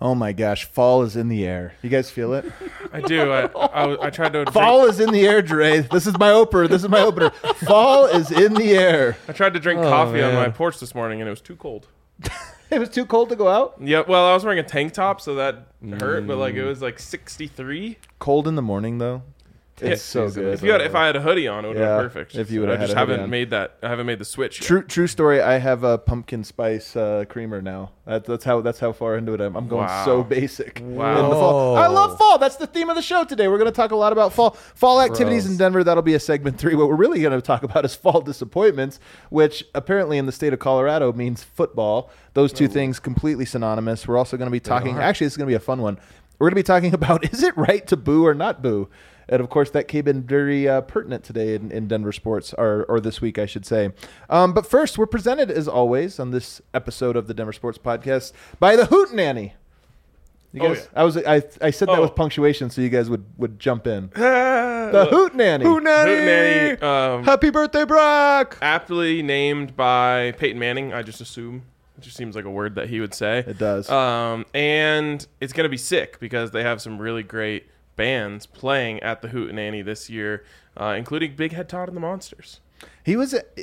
Oh my gosh, fall is in the air. You guys feel it? I do. I tried to. Fall is in the air, Dre. This is my opener. Fall is in the air. I tried to drink coffee on my porch this morning, and it was too cold. It was too cold to go out? Yeah, well, I was wearing a tank top, so that hurt, but it was 63. Cold in the morning, though. It's so good. If I had a hoodie on, it would have been perfect. If you would have I haven't made the switch yet. True story. I have a pumpkin spice creamer now. That's how far into it I'm going. So basic. Wow. In the fall. I love fall. That's the theme of the show today. We're going to talk a lot about fall activities in Denver. That'll be a segment 3. What we're really going to talk about is fall disappointments, which apparently in the state of Colorado means football. Those two things completely synonymous. We're also going to be talking. Actually, this is going to be a fun one. We're going to be talking about, is it right to boo or not boo? And, of course, that came in very pertinent today in Denver sports, or this week, I should say. But first, we're presented, as always, on this episode of the Denver Sports Podcast by the Hootenanny. You guys, I said that with punctuation so you guys would jump in. The Hootenanny. Hootenanny. Happy birthday, Brock! Aptly named by Peyton Manning, I just assume. It just seems like a word that he would say. It does. And it's going to be sick because they have some really great bands playing at the Hootenanny this year, including Big Head Todd and the Monsters. He was at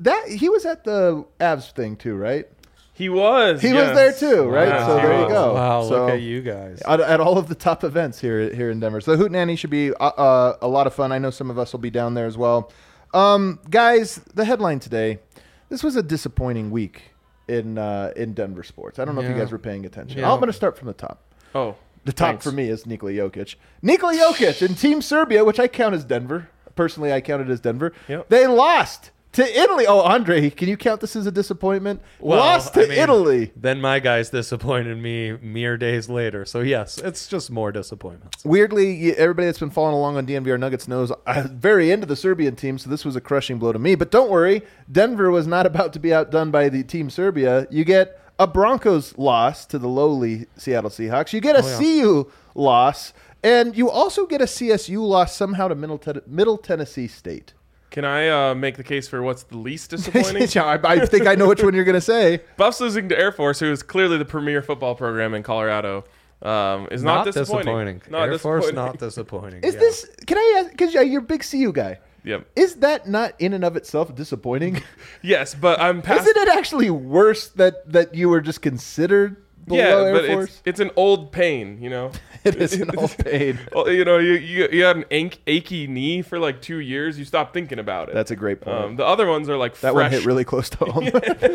the Avs thing too, right? He was there too, right? Wow. So there you go. Wow, so, look at you guys. At all of the top events here in Denver. So the Hootenanny should be a lot of fun. I know some of us will be down there as well. Guys, the headline today, this was a disappointing week in Denver sports. I don't know if you guys were paying attention. Yeah. I'm going to start from the top. Oh, The top for me is Nikola Jokic. Nikola Jokic and Team Serbia, which I count as Denver. Personally, I count it as Denver. Yep. They lost to Italy. Oh, Andre, can you count this as a disappointment? Lost to Italy. Then my guys disappointed me mere days later. So, yes, it's just more disappointments. Weirdly, everybody that's been following along on DNVR Nuggets knows I'm very into the Serbian team, so this was a crushing blow to me. But don't worry, Denver was not about to be outdone by the Team Serbia. You get a Broncos loss to the lowly Seattle Seahawks. You get a CU loss, and you also get a CSU loss somehow to Middle Tennessee State. Can I make the case for what's the least disappointing? I think I know which one you're going to say. Buffs losing to Air Force, who is clearly the premier football program in Colorado, is not disappointing. Air Force, not disappointing. Is this? Can I ask? Because you're a big CU guy. Yep. Is that not in and of itself disappointing? Yes, but I'm past. Isn't it actually worse that you were just considered below Air Force? It's an old pain, you know. It is an old pain. You know, you had an achy knee for like 2 years. You stopped thinking about it. That's a great point. The other ones are like that fresh. one hit really close to home.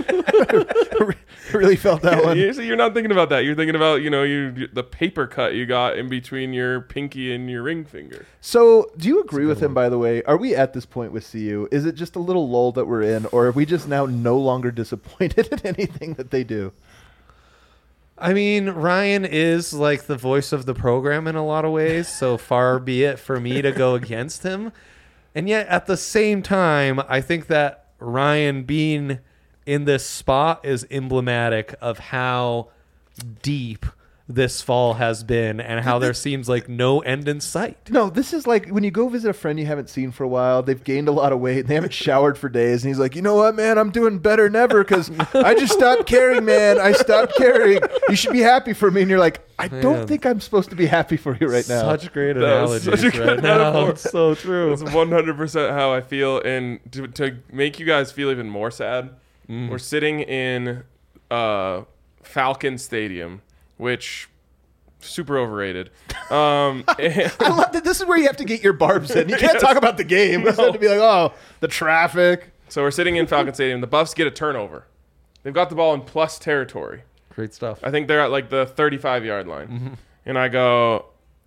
Really felt that one. So you're not thinking about that. You're thinking about the paper cut you got in between your pinky and your ring finger. So do you agree with him? By the way, are we at this point with CU? Is it just a little lull that we're in, or are we just now no longer disappointed in anything that they do? I mean, Ryan is like the voice of the program in a lot of ways, so far be it for me to go against him. And yet, at the same time, I think that Ryan being in this spot is emblematic of how deep this fall has been and how there seems like no end in sight. No, this is like when you go visit a friend you haven't seen for a while. They've gained a lot of weight and they haven't showered for days. And he's like, you know what, man? I'm doing better than ever because I just stopped caring, man. I stopped caring. You should be happy for me. And you're like, I don't think I'm supposed to be happy for you right now. Such great analogies such a good right now. metaphor. It's so true. It's 100% how I feel. And to make you guys feel even more sad, we're sitting in Falcon Stadium, which super overrated. I love that. This is where you have to get your barbs in. You can't talk about the game. You have to be like, oh, the traffic. So we're sitting in Falcon Stadium. The Buffs get a turnover. They've got the ball in plus territory. Great stuff. I think they're at like the 35-yard line. And I go,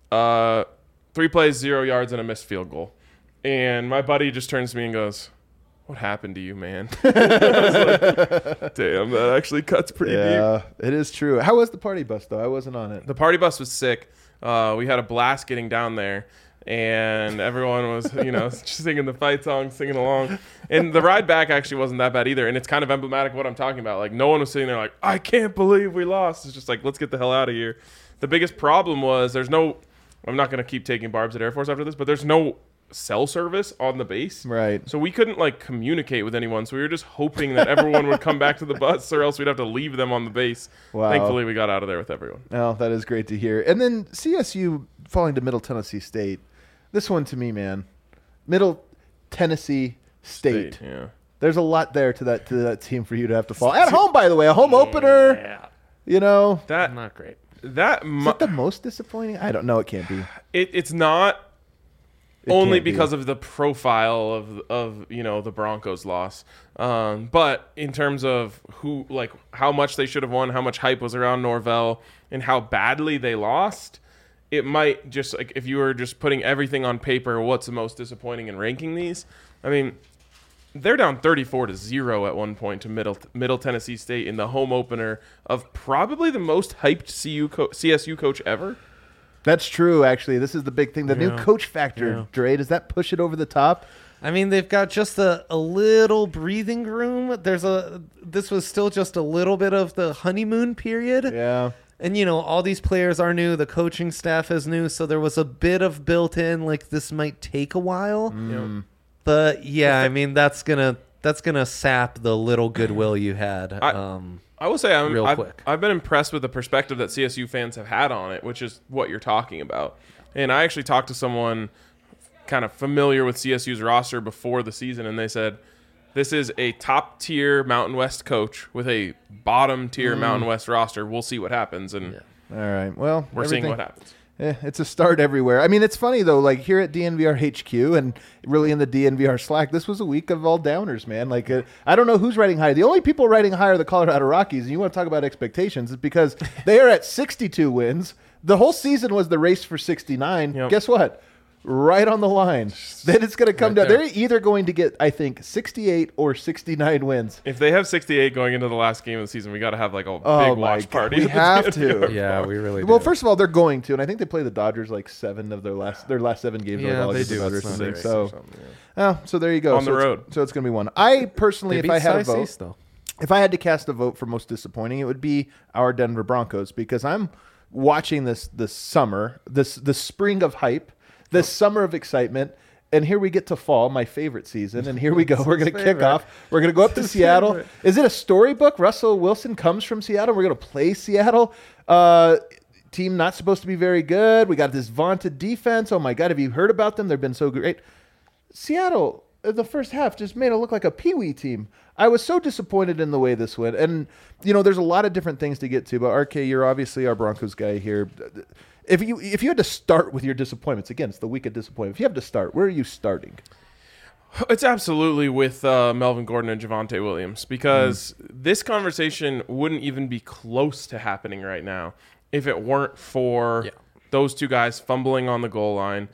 3 plays, 0 yards, and a missed field goal. And my buddy just turns to me and goes, what happened to you, man? I was like, damn, that actually cuts pretty deep. Yeah, it is true. How was the party bus, though? I wasn't on it. The party bus was sick. We had a blast getting down there, and everyone was, just singing the fight song, singing along. And the ride back actually wasn't that bad either, and it's kind of emblematic of what I'm talking about. Like, no one was sitting there like, I can't believe we lost. It's just like, let's get the hell out of here. The biggest problem was I'm not going to keep taking barbs at Air Force after this, but there's no cell service on the base. Right. So we couldn't like communicate with anyone. So we were just hoping that everyone would come back to the bus, or else we'd have to leave them on the base. Wow. Thankfully, we got out of there with everyone. Oh, that is great to hear. And then CSU falling to Middle Tennessee State. This one to me, man. Middle Tennessee State. Yeah. There's a lot there to that team for you to have to fall. At home, by the way, a home opener. Yeah. You know. That Not great. that Is it the most disappointing? I don't know. It can't be. it's not It only can't be. because of the profile of the Broncos loss, but in terms of how much they should have won, how much hype was around Norvell, and how badly they lost, it might just like if you were just putting everything on paper, what's the most disappointing in ranking these? I mean, they're down 34-0 at one point to Middle Tennessee State in the home opener of probably the most hyped CSU coach ever. That's true, actually. This is the big thing. The new Yeah. coach factor, Yeah. Dre, does that push it over the top? I mean, they've got just a little breathing room. This was still just a little bit of the honeymoon period. Yeah. And, all these players are new. The coaching staff is new. So there was a bit of built in, like, this might take a while. But, yeah, I mean, that's gonna sap the little goodwill you had. I will say Real quick. I've been impressed with the perspective that CSU fans have had on it, which is what you're talking about. And I actually talked to someone kind of familiar with CSU's roster before the season, and they said, this is a top-tier Mountain West coach with a bottom-tier Mountain West roster. We'll see what happens, and All right. Well, we're seeing what happens. It's a start everywhere. I mean, it's funny, though, like here at DNVR HQ and really in the DNVR Slack, this was a week of all downers, man. Like, I don't know who's riding high. The only people riding high are the Colorado Rockies, and you want to talk about expectations, is because they are at 62 wins. The whole season was the race for 69. Yep. Guess what? Right on the line. Then it's going to come down. there. They're either going to get, I think, 68 or 69 wins. If they have 68 going into the last game of the season, we got to have like a Oh, big my watch God. party. We at the have DNVR to. Yeah, we really Well, do. first of all, they're going to, and I think they play the Dodgers like 7 of their last 7 games. Yeah, overall they against the do. Dodgers, It's I not think. great. So, or something, yeah. so there you go. On the So it's- road. So it's going to be one. I personally, They if I beat had a Cy vote, Cease, though. if I had to cast a vote for most disappointing, it would be our Denver Broncos because I'm watching this summer, this spring of hype, this summer of excitement. And here we get to fall, my favorite season. And here we go. We're going to kick off. We're going to go up to Seattle. favorite. Is it a storybook? Russell Wilson comes from Seattle. We're going to play Seattle. Team not supposed to be very good. We got this vaunted defense. Oh, my God. Have you heard about them? They've been so great. Seattle, in the first half, just made it look like a peewee team. I was so disappointed in the way this went. And, there's a lot of different things to get to. But, RK, you're obviously our Broncos guy here. If you had to start with your disappointments, again, it's the week of disappointment. If you have to start, where are you starting? It's absolutely with Melvin Gordon and Javonte Williams because this conversation wouldn't even be close to happening right now if it weren't for those two guys fumbling on the goal line.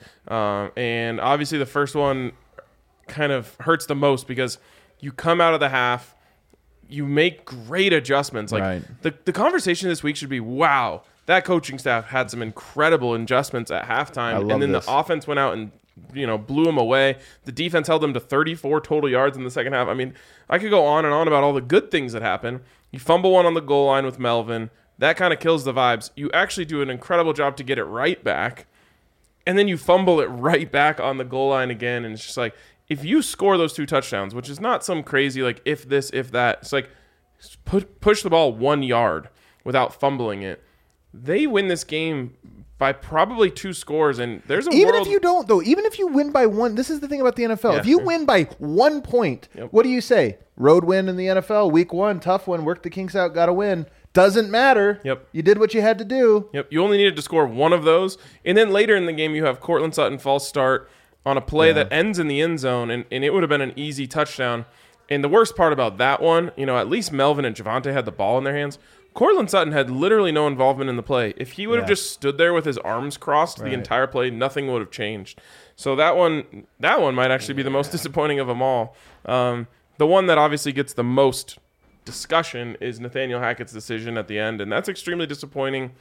And obviously the first one kind of hurts the most because you come out of the half, you make great adjustments. Like Right. the conversation this week should be, wow, that coaching staff had some incredible adjustments at halftime. I love And then this. the offense went out and blew them away. The defense held them to 34 total yards in the second half. I mean, I could go on and on about all the good things that happen. You fumble one on the goal line with Melvin. That kind of kills the vibes. You actually do an incredible job to get it right back. And then you fumble it right back on the goal line again. And it's just like, if you score those 2 touchdowns, which is not some crazy, like, if this, if that, it's like, push the ball 1 yard without fumbling it. They win this game by probably 2 scores, and there's a Even world. if you don't, though, even if you win by 1, this is the thing about the NFL. Yeah, if you sure. win by 1 point, what do you say? Road win in the NFL, week 1, tough one, work the kinks out, got to win. Doesn't matter. Yep. You did what you had to do. Yep, you only needed to score 1 of those, and then later in the game you have Cortland Sutton false start on a play that ends in the end zone, and it would have been an easy touchdown. And the worst part about that one, at least Melvin and Javonte had the ball in their hands. Cortland Sutton had literally no involvement in the play. If he would have just stood there with his arms crossed the entire play, nothing would have changed. So that one might actually be the most disappointing of them all. The one that obviously gets the most discussion is Nathaniel Hackett's decision at the end, and that's extremely disappointing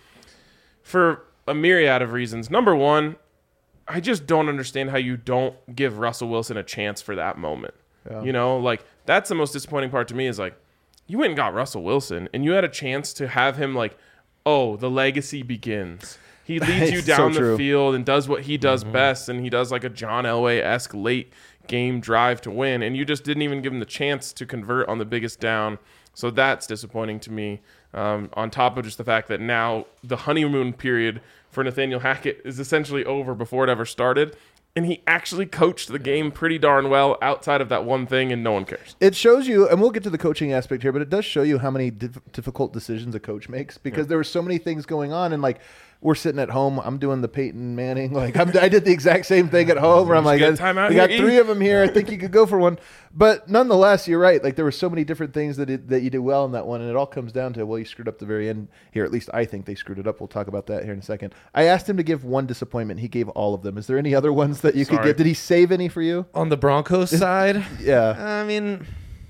for a myriad of reasons. Number one, I just don't understand how you don't give Russell Wilson a chance for that moment. Yeah. That's the most disappointing part to me is like, you went and got Russell Wilson, and you had a chance to have him like, oh, the legacy begins. He leads you It's down so the true. field and does what he does best, and he does like a John Elway-esque late game drive to win, and you just didn't even give him the chance to convert on the biggest down. So that's disappointing to me, on top of just the fact that now the honeymoon period for Nathaniel Hackett is essentially over before it ever started. And he actually coached the game pretty darn well outside of that one thing, and no one cares. It shows you, and we'll get to the coaching aspect here, but it does show you how many difficult decisions a coach makes because there were so many things going on. And like, we're sitting at home. I'm doing the Peyton Manning. Like, I did the exact same thing at home where I'm like, get time out we got here, 3 of them here. I think you could go for one. But nonetheless, you're right. Like, there were so many different things that you did well in that one. And it all comes down to, well, you screwed up the very end here. At least I think they screwed it up. We'll talk about that here in a second. I asked him to give one disappointment. He gave all of them. Is there any other ones that you could give? Did he save any for you? On the Broncos side? Yeah. I mean,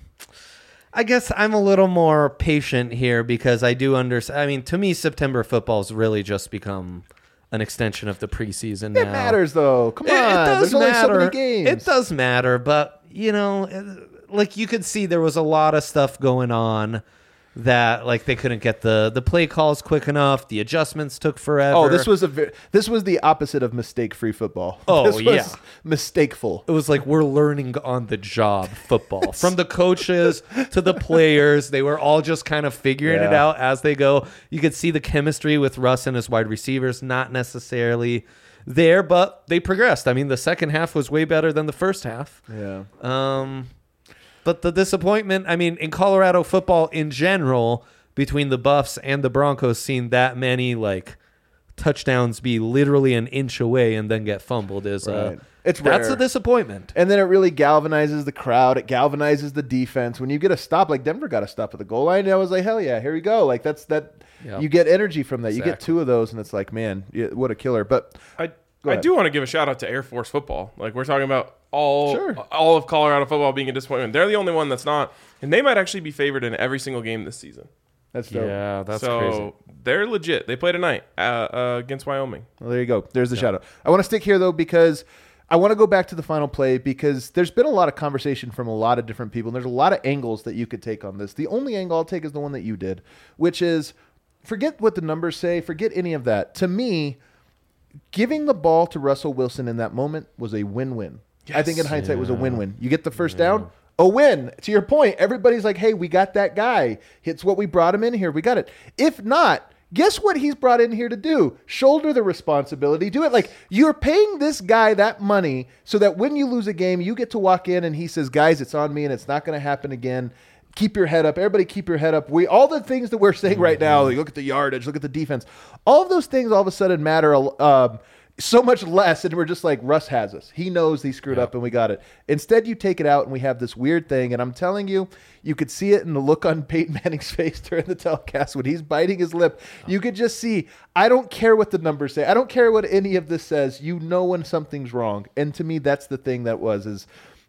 I guess I'm a little more patient here because I do understand. I mean, to me, September football's really just become an extension of the preseason now. It matters, though. Come on. It does There's only so matter. many games. It does matter, but, you know, like you could see there was a lot of stuff going on that like they couldn't get the play calls quick enough. The adjustments took forever. Oh, this was the opposite of mistake-free football. Oh, this was yeah. mistakeful. It was like we're learning on the job football. From the coaches to the players, they were all just kind of figuring it Yeah. out as they go. You could see the chemistry with Russ and his wide receivers not necessarily there, but they progressed. I mean, the second half was way better than the first half. Yeah. But the disappointment, I mean, in Colorado football in general, between the Buffs and the Broncos, seeing that many like touchdowns be literally an inch away and then get fumbled is Right. It's that's rare. a disappointment. And then it really galvanizes the crowd. It galvanizes the defense. When you get a stop, like Denver got a stop at the goal line, I was like, hell yeah, here we go. Like that. Yep. You get energy from that. You get Exactly. 2 of those, and it's like, man, what a killer. But I Go ahead. do want to give a shout out to Air Force football. Like, we're talking about all of Colorado football being a disappointment. They're the only one that's not, and they might actually be favored in every single game this season. that's dope. Yeah, that's so crazy. they're legit. They play tonight against Wyoming. Well, there you go. There's the shout out. I want to stick here, though, because I want to go back to the final play because there's been a lot of conversation from a lot of different people, and there's a lot of angles that you could take on this. The only angle I'll take is the one that you did, which is forget what the numbers say, forget any of that. To me, giving the ball to Russell Wilson in that moment was a win-win. I think in hindsight it was a win-win. You get the first down, a win. To your point, everybody's like, hey, we got that guy. It's what we brought him in here. We got it. If not, guess what he's brought in here to do? Shoulder the responsibility. Do it. Like, you're paying this guy that money so that when you lose a game, you get to walk in and he says, guys, it's on me and it's not going to happen again. Keep your head up. Everybody keep your head up. All the things that we're saying right now, like, look at the yardage, look at the defense. All of those things all of a sudden matter so much less, and we're just like, Russ has us. He knows he screwed up and we got it. Instead, you take it out and we have this weird thing, and I'm telling you, you could see it in the look on Peyton Manning's face during the telecast when he's biting his lip. You could just see, I don't care what the numbers say. I don't care what any of this says. You know when something's wrong. And to me, that's the thing that is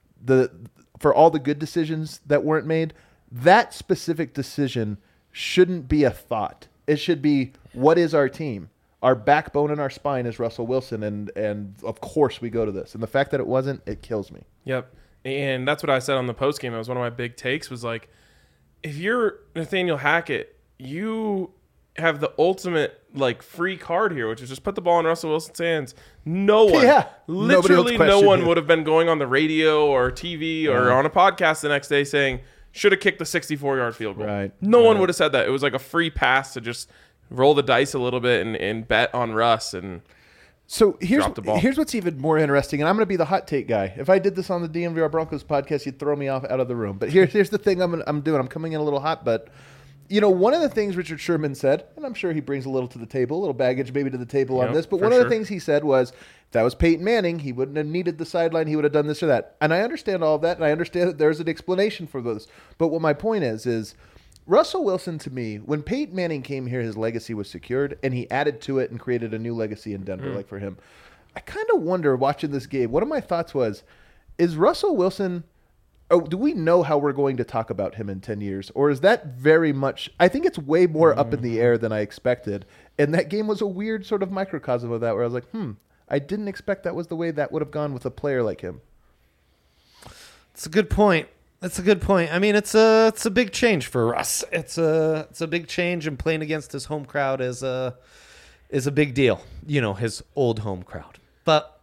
for all the good decisions that weren't made, that specific decision shouldn't be a thought. It should be, what is our team? Our backbone and our spine is Russell Wilson, and of course we go to this. And the fact that it wasn't, it kills me. Yep. And that's what I said on the post game. It was one of my big takes was like, if you're Nathaniel Hackett, you have the ultimate like free card here, which is just put the ball in Russell Wilson's hands. No one, literally no one would have been going on the radio or TV or on a podcast the next day saying, should have kicked the 64-yard field goal. Right. No one would have said that. It was like a free pass to just roll the dice a little bit and bet on Russ. And so here's Drop the ball. here's what's even more interesting, and I'm going to be the hot take guy. If I did this on the DNVR Broncos podcast, you'd throw me out of the room. But here's the thing I'm doing. I'm coming in a little hot, but one of the things Richard Sherman said, and I'm sure he brings a little to the table, a little baggage maybe to the table on this, but one of the things he said was, if that was Peyton Manning, he wouldn't have needed the sideline, he would have done this or that. And I understand all of that, and I understand that there's an explanation for this. But what my point is Russell Wilson, to me, when Peyton Manning came here, his legacy was secured, and he added to it and created a new legacy in Denver, like for him. I kind of wonder, watching this game, one of my thoughts was, is Russell Wilson... Oh, do we know how we're going to talk about him in 10 years? Or is that very much... I think it's way more up in the air than I expected. And that game was a weird sort of microcosm of that, where I was like, I didn't expect that was the way that would have gone with a player like him. It's a good point. That's a good point. I mean, it's a big change for Russ. It's a big change, and playing against his home crowd is is a big deal. His old home crowd. But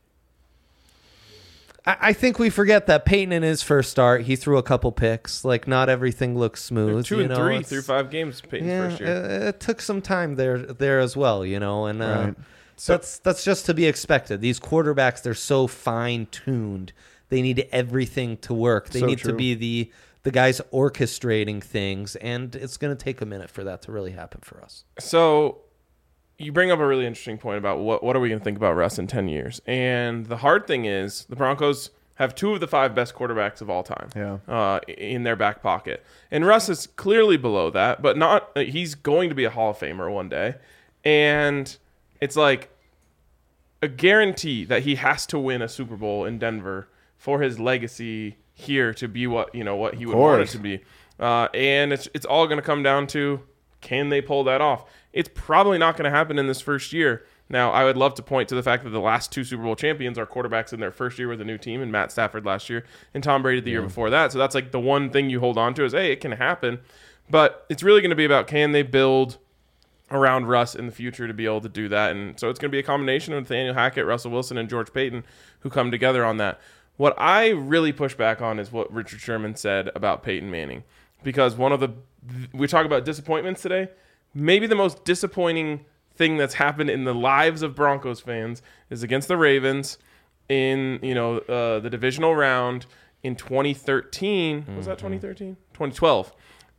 I think we forget that Peyton in his first start, he threw a couple picks. Like, not everything looks smooth. 2-3 through 5 games Peyton's first year. It took some time there as well, and Right. that's just to be expected. These quarterbacks, they're so fine-tuned. They need everything to work. They need to be the guys orchestrating things, and it's going to take a minute for that to really happen for us. So you bring up a really interesting point about what are we going to think about Russ in 10 years. And the hard thing is the Broncos have 2 of the 5 best quarterbacks of all time in their back pocket. And Russ is clearly below that, but not. He's going to be a Hall of Famer one day. And it's like a guarantee that he has to win a Super Bowl in Denver for his legacy here to be what he would want it to be. And it's all going to come down to, can they pull that off? It's probably not going to happen in this first year. Now, I would love to point to the fact that the last 2 Super Bowl champions are quarterbacks in their first year with a new team, and Matt Stafford last year and Tom Brady the year before that. So that's like the one thing you hold on to is, hey, it can happen. But it's really going to be about, can they build around Russ in the future to be able to do that? And so it's going to be a combination of Nathaniel Hackett, Russell Wilson, and George Payton who come together on that. What I really push back on is what Richard Sherman said about Peyton Manning. Because we talk about disappointments today. Maybe the most disappointing thing that's happened in the lives of Broncos fans is against the Ravens in the divisional round in 2013. Was that 2013? 2012.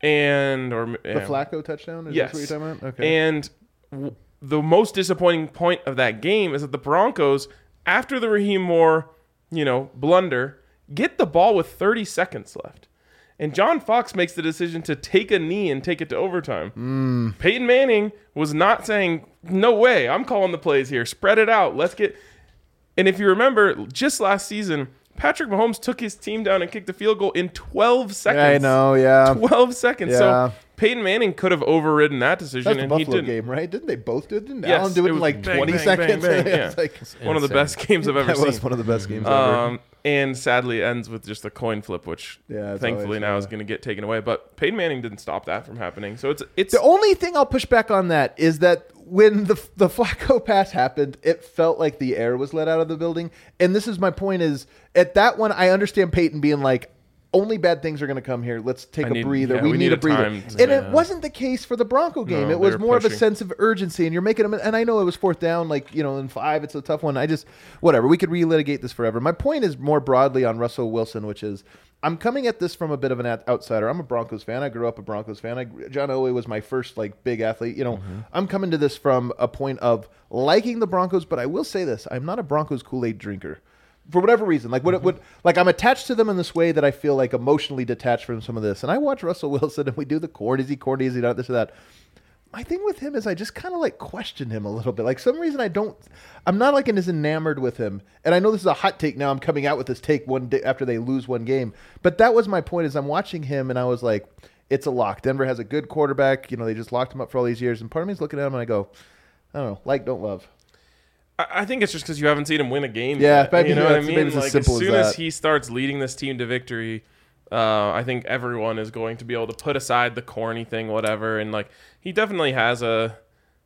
The Flacco touchdown? Yes. That what you're talking about? Okay. And the most disappointing point of that game is that the Broncos, after the Raheem Moore, blunder, get the ball with 30 seconds left. And John Fox makes the decision to take a knee and take it to overtime. Peyton Manning was not saying, no way, I'm calling the plays here. Spread it out. Let's get... And if you remember, just last season, Patrick Mahomes took his team down and kicked a field goal in 12 seconds. Yeah, I know, yeah. 12 seconds. Yeah. So Peyton Manning could have overridden that decision. That's the and Buffalo he didn't. game, right? Didn't they both do it? Didn't Yes, Allen do it in was like bang, 20 bang, seconds? bang, bang, It's like, one of the best games I've ever that seen. was one of the best games ever. And sadly ends with just a coin flip, which thankfully now is going to get taken away. But Peyton Manning didn't stop that from happening. So it's the only thing I'll push back on that is that when the Flacco pass happened, it felt like the air was let out of the building. And this is my point is, at that one, I understand Peyton being like, only bad things are going to come here. Let's take a breather. We need a breather. And it wasn't the case for the Bronco game. No, it was more pushing. of a sense of urgency, and you're making them. And I know it was 4th down, in 5. It's a tough one. Whatever. We could relitigate this forever. My point is more broadly on Russell Wilson, which is I'm coming at this from a bit of an outsider. I'm a Broncos fan. I grew up a Broncos fan. John Elway was my first big athlete. I'm coming to this from a point of liking the Broncos, but I will say this: I'm not a Broncos Kool-Aid drinker. For whatever reason, I'm attached to them in this way that I feel emotionally detached from some of this. And I watch Russell Wilson, and we do the corny, is he corny, is he not, this or that. My thing with him is I just kind of question him a little bit. Some reason I'm not as enamored with him. And I know this is a hot take now. I'm coming out with this take one day after they lose one game. But that was my point is I'm watching him, and I was like, it's a lock. Denver has a good quarterback. They just locked him up for all these years. And part of me is looking at him, and I go, I don't know, don't love. I think it's just because you haven't seen him win a game Yeah, yet. maybe You know what I mean? maybe it's as simple as soon as as that. he starts leading this team to victory, I think everyone is going to be able to put aside the corny thing, whatever. And he definitely has a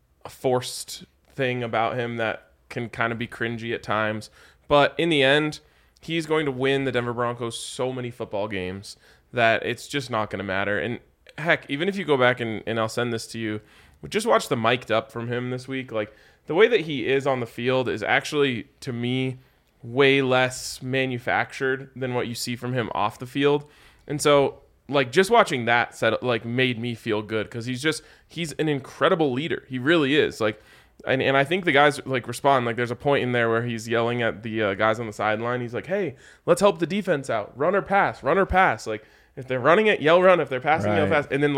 forced thing about him that can kind of be cringy at times. But in the end, he's going to win the Denver Broncos so many football games that it's just not going to matter. And heck, even if you go back and I'll send this to you, just watch the mic'd up from him this week. The way that he is on the field is actually, to me, way less manufactured than what you see from him off the field. And so, just watching that made me feel good because he's an incredible leader. He really is. And I think the guys respond. There's a point in there where he's yelling at the guys on the sideline. He's like, "Hey, let's help the defense out. Run or pass. Run or pass. If they're running it, yell run. If they're passing, yell pass." And then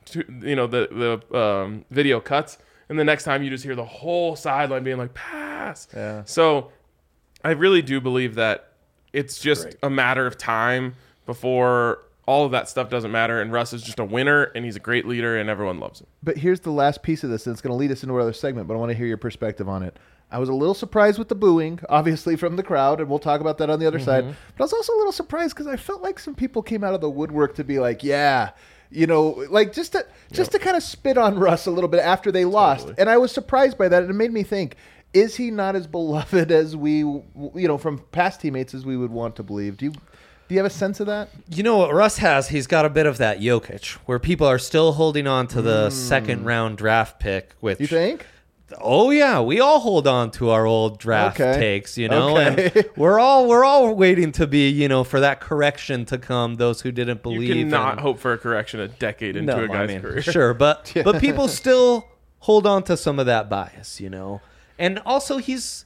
the video cuts. And the next time you just hear the whole sideline being like, pass. Yeah. So I really do believe that it's just a matter of time before all of that stuff doesn't matter. And Russ is just a winner, and he's a great leader, and everyone loves him. But here's the last piece of this, and it's going to lead us into our other segment, but I want to hear your perspective on it. I was a little surprised with the booing, obviously, from the crowd, and we'll talk about that on the other side. But I was also a little surprised because I felt like some people came out of the woodwork to be like, yeah, like just to kind of spit on Russ a little bit after they lost. And I was surprised by that. And it made me think, is he not as beloved as we, from past teammates as we would want to believe? Do you have a sense of that? You know what Russ has? He's got a bit of that Jokic, where people are still holding on to the second round draft pick. Which you think? Oh yeah, we all hold on to our old draft takes, Okay. and we're all waiting to be, for that correction to come. Those who didn't believe, you cannot hope for a correction a decade into a guy's career. Sure, but people still hold on to some of that bias, and also he's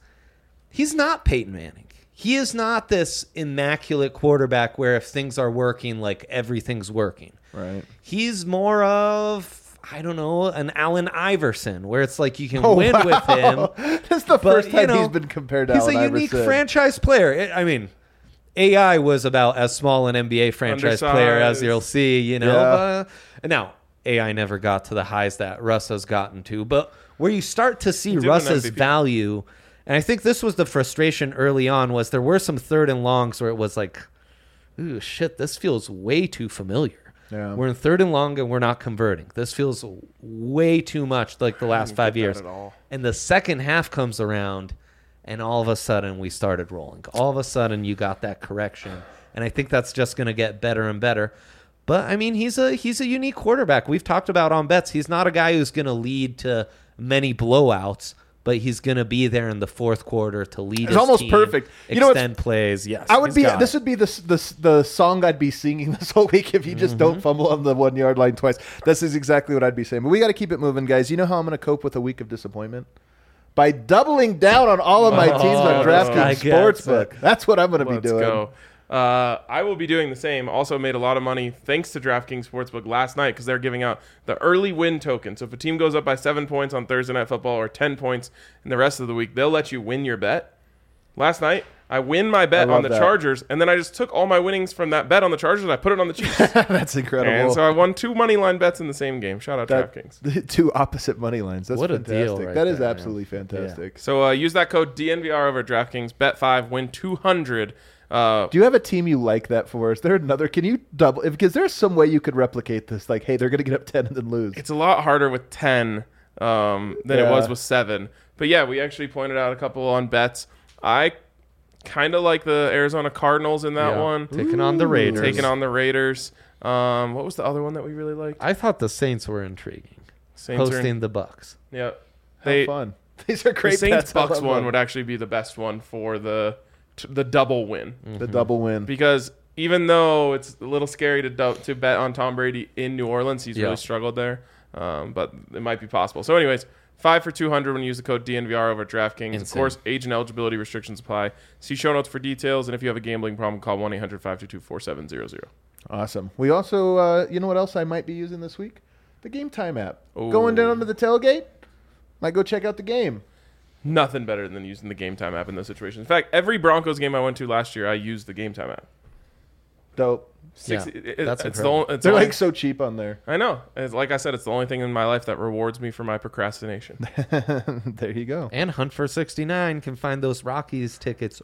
not Peyton Manning. He is not this immaculate quarterback where if things are working, like everything's working. Right. He's more of, I don't know, an Allen Iverson, where it's like you can win with him. That's the first time he's been compared to Allen Iverson. He's a unique franchise player. I mean, AI was about as small an NBA franchise player as you'll see, Now, AI never got to the highs that Russ has gotten to. But where you start to see Russ's value, and I think this was the frustration early on, was there were some third and longs where it was like, ooh, shit, this feels way too familiar. Yeah. We're in third and long and we're not converting. This feels way too much like the last 5 years. And the second half comes around and all of a sudden we started rolling. All of a sudden you got that correction. And I think that's just going to get better and better. But I mean, he's a unique quarterback. We've talked about on bets. He's not a guy who's going to lead to many blowouts, but he's going to be there in the fourth quarter to lead his almost team, perfect. Extend plays. Yes, this would be the song I'd be singing this whole week if you just don't fumble on the 1 yard line twice. This is exactly what I'd be saying. But we got to keep it moving, guys. You know how I'm going to cope with a week of disappointment? By doubling down on all of my teams on DraftKings Sportsbook. That's what I'm going to be doing. Let's go. I will be doing the same. Also made a lot of money thanks to DraftKings Sportsbook last night because they're giving out the early win token. So if a team goes up by 7 points on Thursday Night Football or 10 points in the rest of the week, they'll let you win your bet. Last night, I win my bet on the Chargers, and then I just took all my winnings from that bet on the Chargers and I put it on the Chiefs. That's incredible. And so I won 2 money line bets in the same game. Shout out DraftKings. 2 opposite money lines. That's what fantastic. A deal right that is there, absolutely fantastic. Yeah. So use that code DNVR over at DraftKings. Bet 5, win 200. Do you have a team you like that for? Is there another? Can you double? Because there's some way you could replicate this. Like, hey, they're going to get up 10 and then lose. It's a lot harder with 10 than it was with 7. But yeah, we actually pointed out a couple on bets. I kind of like the Arizona Cardinals in that one. Taking on the Raiders. What was the other one that we really liked? I thought the Saints were intriguing. Saints hosting the Bucks. Yeah. How fun. These are great. The Saints-Bucks one would actually be the best one for the double win. The double win. Because even though it's a little scary to bet on Tom Brady in New Orleans, he's really struggled there. But it might be possible. So anyways, 5 for 200 when you use the code DNVR over at DraftKings. Insane. Of course, age and eligibility restrictions apply. See show notes for details. And if you have a gambling problem, call 1-800-522-4700. Awesome. We also, you know what else I might be using this week? The Game Time app. Ooh. Going down to the tailgate, might go check out the game. Nothing better than using the Game Time app in those situations. In fact, every Broncos game I went to last year, I used the Game Time app. Dope. That's incredible. They're like so cheap on there. I know. Like I said, it's the only thing in my life that rewards me for my procrastination. There you go. And Hunt for 69 can find those Rockies tickets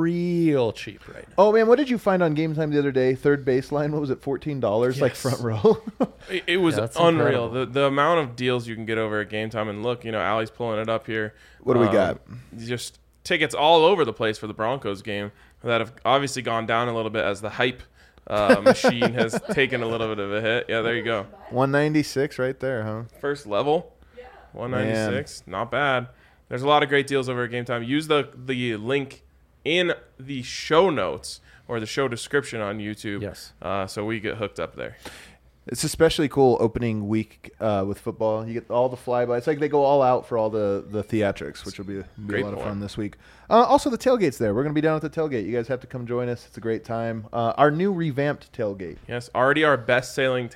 real cheap right now. Oh, man, what did you find on Game Time the other day? Third baseline, what was it, $14? Like front row? It was unreal. The amount of deals you can get over at Game Time. And look, Allie's pulling it up here. What do we got? Just tickets all over the place for the Broncos game that have obviously gone down a little bit as the hype machine has taken a little bit of a hit. Yeah, there you go. 196 right there, huh? First level. Yeah. 196. Man. Not bad. There's a lot of great deals over at Game Time. Use the link in the show notes or the show description on YouTube. Yes. So we get hooked up there. It's especially cool opening week with football. You get all the flybys. It's like they go all out for all the theatrics, which will be a lot of fun this week. Also, the tailgate's there. We're going to be down at the tailgate. You guys have to come join us. It's a great time. Our new revamped tailgate. Yes, already our best-selling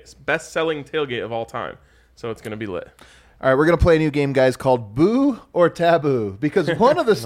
tailgate of all time. So it's going to be lit. All right, we're going to play a new game, guys, called Boo or Taboo. Because one of the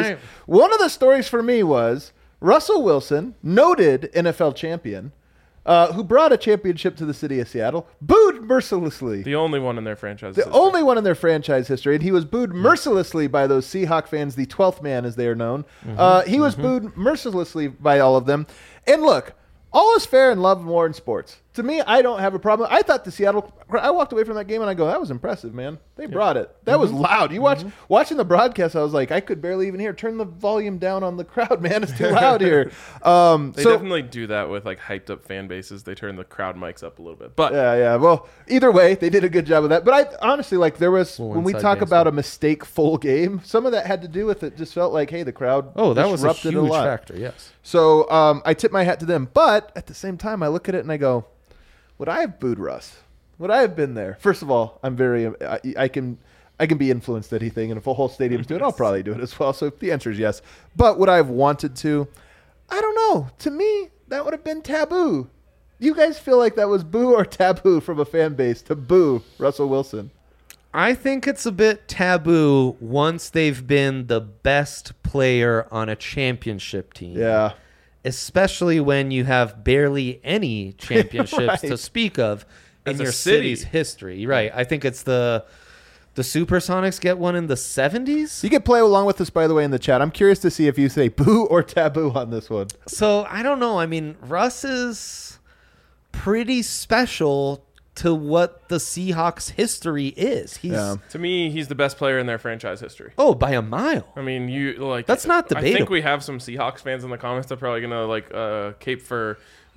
stories for me was Russell Wilson, noted NFL champion, who brought a championship to the city of Seattle, booed mercilessly. The only one in their franchise history. Only one in their franchise history. And he was booed mercilessly by those Seahawk fans, the 12th man, as they are known. He was booed mercilessly by all of them. And look, all is fair in love, war, and sports. To me, I don't have a problem. I thought the Seattle. I walked away from that game and I go, that was impressive, man. They brought it. That was loud. You watching the broadcast. I was like, I could barely even hear. Turn the volume down on the crowd, man. It's too loud here. They definitely do that with like hyped up fan bases. They turn the crowd mics up a little bit. But yeah. Well, either way, they did a good job of that. But I honestly like there was when we talk about a mistake-full game, some of that had to do with it. Just felt like, hey, the crowd. Oh, that was a disrupted huge lot. factor. Yes. So I tip my hat to them. But at the same time, I look at it and I go, would I have booed Russ? Would I have been there? First of all, I'm very I can be influenced at anything, and if a whole stadium's doing it, I'll probably do it as well. So the answer is yes. But would I have wanted to? I don't know. To me, that would have been taboo. Do you guys feel like that was boo or taboo from a fan base to boo Russell Wilson? I think it's a bit taboo once they've been the best player on a championship team. Yeah. Especially when you have barely any championships Right. to speak of in As a your city. city's history. Right. I think it's the Supersonics get one in the 70s. You can play along with us, by the way, in the chat. I'm curious to see if you say boo or taboo on this one. So I don't know. I mean, Russ is pretty special to what the Seahawks history is. He's to me, he's the best player in their franchise history. oh, by a mile. I mean, you like That's not I think debatable. we have some Seahawks fans in the comments that are probably gonna like cape for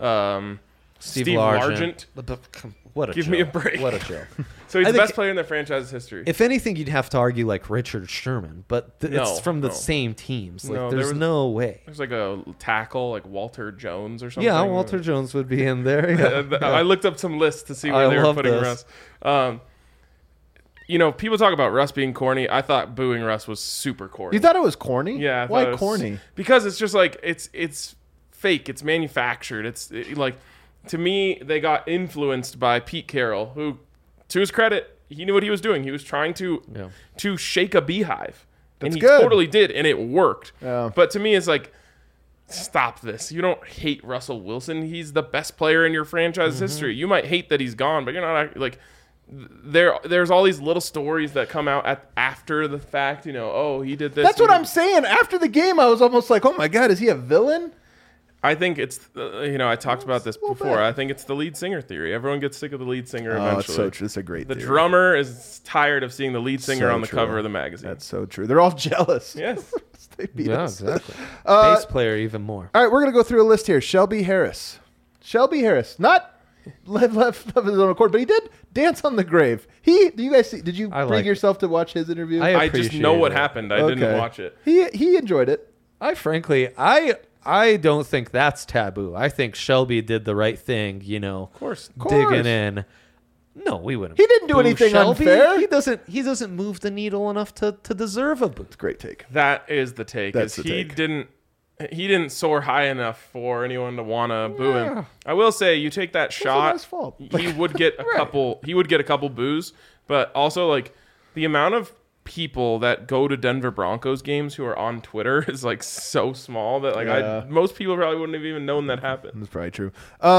Steve Largent. What a Give joke. me a break. What a joke. So he's I the think- best player in their franchise's history. If anything, you'd have to argue like Richard Sherman, but No, it's from the no. same teams. Like, No, there there's was- no way. There's like a tackle, like Walter Jones or something. Yeah, Walter Jones would be in there. Yeah. I looked up some lists to see where I they were love putting this. Russ. You know, people talk about Russ being corny. I thought booing Russ was super corny. You thought it was corny? Yeah. I thought Why it was- corny? Because it's just like it's fake. It's manufactured. Like to me, they got influenced by Pete Carroll, who, to his credit, he knew what he was doing. He was trying to shake a beehive, and That's he good. totally did, and it worked. Yeah. But to me, it's like, stop this. You don't hate Russell Wilson. He's the best player in your franchise history. You might hate that he's gone, but you're not like. There's all these little stories that come out after the fact. You know, oh, he did this. That's what I'm saying. After the game, I was almost like, oh my God, is he a villain? I think it's, I talked about this little before. bit. I think it's the lead singer theory. Everyone gets sick of the lead singer Oh, eventually. it's so true. It's a great The theory. drummer is tired of seeing the lead singer So on the true. cover of the magazine. That's so true. They're all jealous. Yes. They beat Yeah, us. exactly. Bass player even more. All right, we're going to go through a list here. Shelby Harris. Not left of his own accord, but he did dance on the grave. Do you guys see? Did you I bring like yourself to watch his interview? I just know appreciate what it. happened. I didn't Okay. watch it. He enjoyed it. I frankly, I don't think that's taboo. I think Shelby did the right thing, you know. Of course. Digging in. No, we wouldn't. He didn't do boo anything Shelby. unfair. He doesn't move the needle enough to deserve a boo. Great take. That is the take. That's is the he take. didn't soar high enough for anyone to want to boo him. I will say, you take that shot, his fault. he would get a couple. He would get a couple boos, but also like the amount of people that go to Denver Broncos games who are on Twitter is like so small that like Yeah. most people probably wouldn't have even known that happened. That's probably true.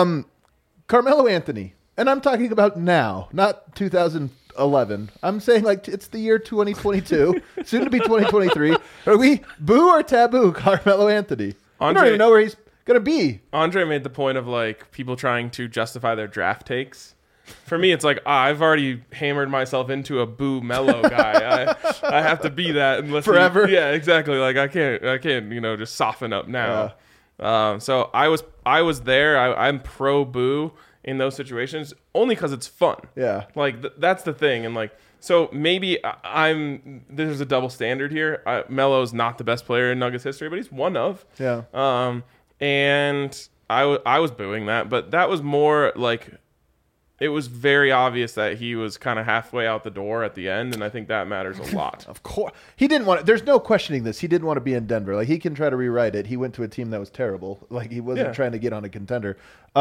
Carmelo Anthony, and I'm talking about now, not 2011. I'm saying like it's the year 2022, soon to be 2023. Are we boo or taboo Carmelo Anthony? I don't Andre- even know where he's gonna be. Andre made the point of like people trying to justify their draft takes. For me, it's like I've already hammered myself into a boo Mello guy. I have to be that unless Forever? Yeah, exactly. Like I can't just soften up now. So I was there. I'm pro boo in those situations only because it's fun. Yeah. Like that's the thing, and like so maybe there's a double standard here. Melo's not the best player in Nuggets history, but he's one of. Yeah. And I was booing that, but that was more like it was very obvious that he was kind of halfway out the door at the end, and I think that matters a lot. Of course, he didn't want. There's no questioning this. He didn't want to be in Denver. Like he can try to rewrite it. He went to a team that was terrible. Like he wasn't trying to get on a contender.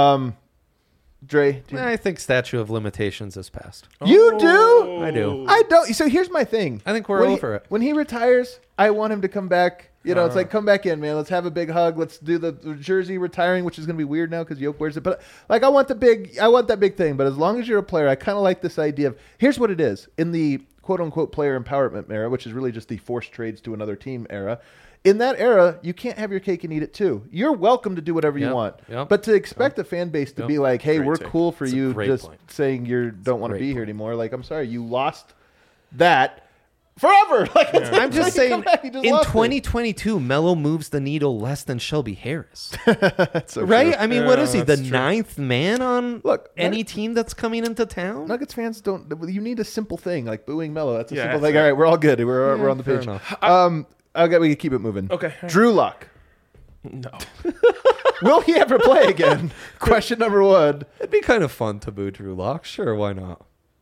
Dre, I think statute of limitations has passed. you do? I do. I don't. So here's my thing. I think we're When over it. When he retires, I want him to come back. You know, it's like, come back in, man. Let's have a big hug. Let's do the jersey retiring, which is going to be weird now because Yoke wears it. But like, I want that big thing. But as long as you're a player, I kind of like this idea of, here's what it is. In the quote unquote player empowerment era, which is really just the forced trades to another team era. In that era, you can't have your cake and eat it too. You're welcome to do whatever you want. But to expect the fan base to be like, hey, Great we're take. cool for That's a you great just point. saying you don't want to great be here point. anymore. Like, I'm sorry, you lost that forever. Like, I'm just saying, in lost it. 2022, Melo moves the needle less than Shelby Harris. That's so Right? true. I mean, what Yeah, is he? The that's true. 9th man on Look, any team that's coming into town? Nuggets fans don't. You need a simple thing like booing Melo. That's a Yeah, simple that's thing. All right, we're all good. We're on the fair page. enough. Okay, we can keep it moving. Okay. Drew Lock. No. Will he ever play again? Question number one. It'd be kind of fun to boo Drew Lock. Sure, why not?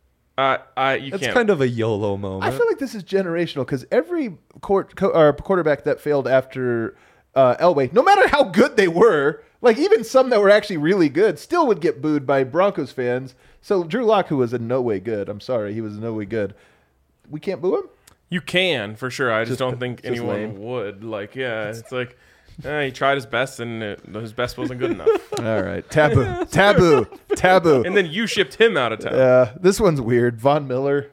You It's can't. kind of a YOLO moment. I feel like this is generational because every quarterback that failed after Elway, no matter how good they were, like even some that were actually really good, still would get booed by Broncos fans. So Drew Lock, who was in no way good, I'm sorry, he was in no way good. We can't boo him? You can for sure. I just don't think just anyone lame. would. Like, yeah, it's like he tried his best and his best wasn't good enough. All right. Taboo. And then you shipped him out of town. This one's weird. Von Miller.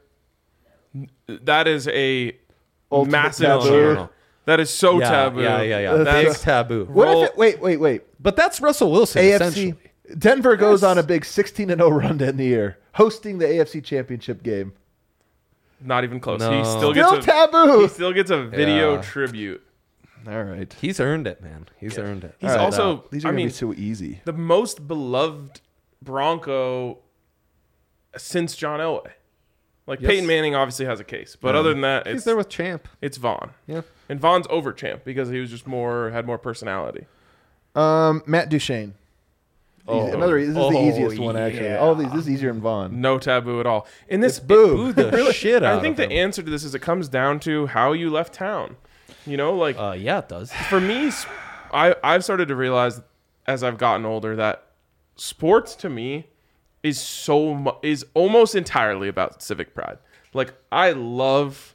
That is a Ultimate massive taboo. taboo. That is so taboo. Yeah. That's Big taboo. What Roll- if it, wait. But that's Russell Wilson, AFC. essentially. Denver goes on a big 16-0 run to end the year, hosting the AFC Championship game. not even close. No. He still Still gets taboo. He still gets a video Yeah. tribute. All right. He's earned it, man. He's earned it. He's All right, also, these are I gonna mean, be so easy. the most beloved Bronco since John Elway. Like Yes. Peyton Manning obviously has a case, but other than that, He's it's there with Champ. it's Vaughn. Yeah. And Vaughn's over Champ because he was just had more personality. Matt Duchene. Easy. This is the easiest one, actually. yeah. All of these, this is easier than Vaughn. No taboo at all. In this Boo the shit out I think of the him. answer to this is it comes down to how you left town. You know, like Yeah, it does. for me, I've started to realize as I've gotten older that sports to me is is almost entirely about civic pride. Like I love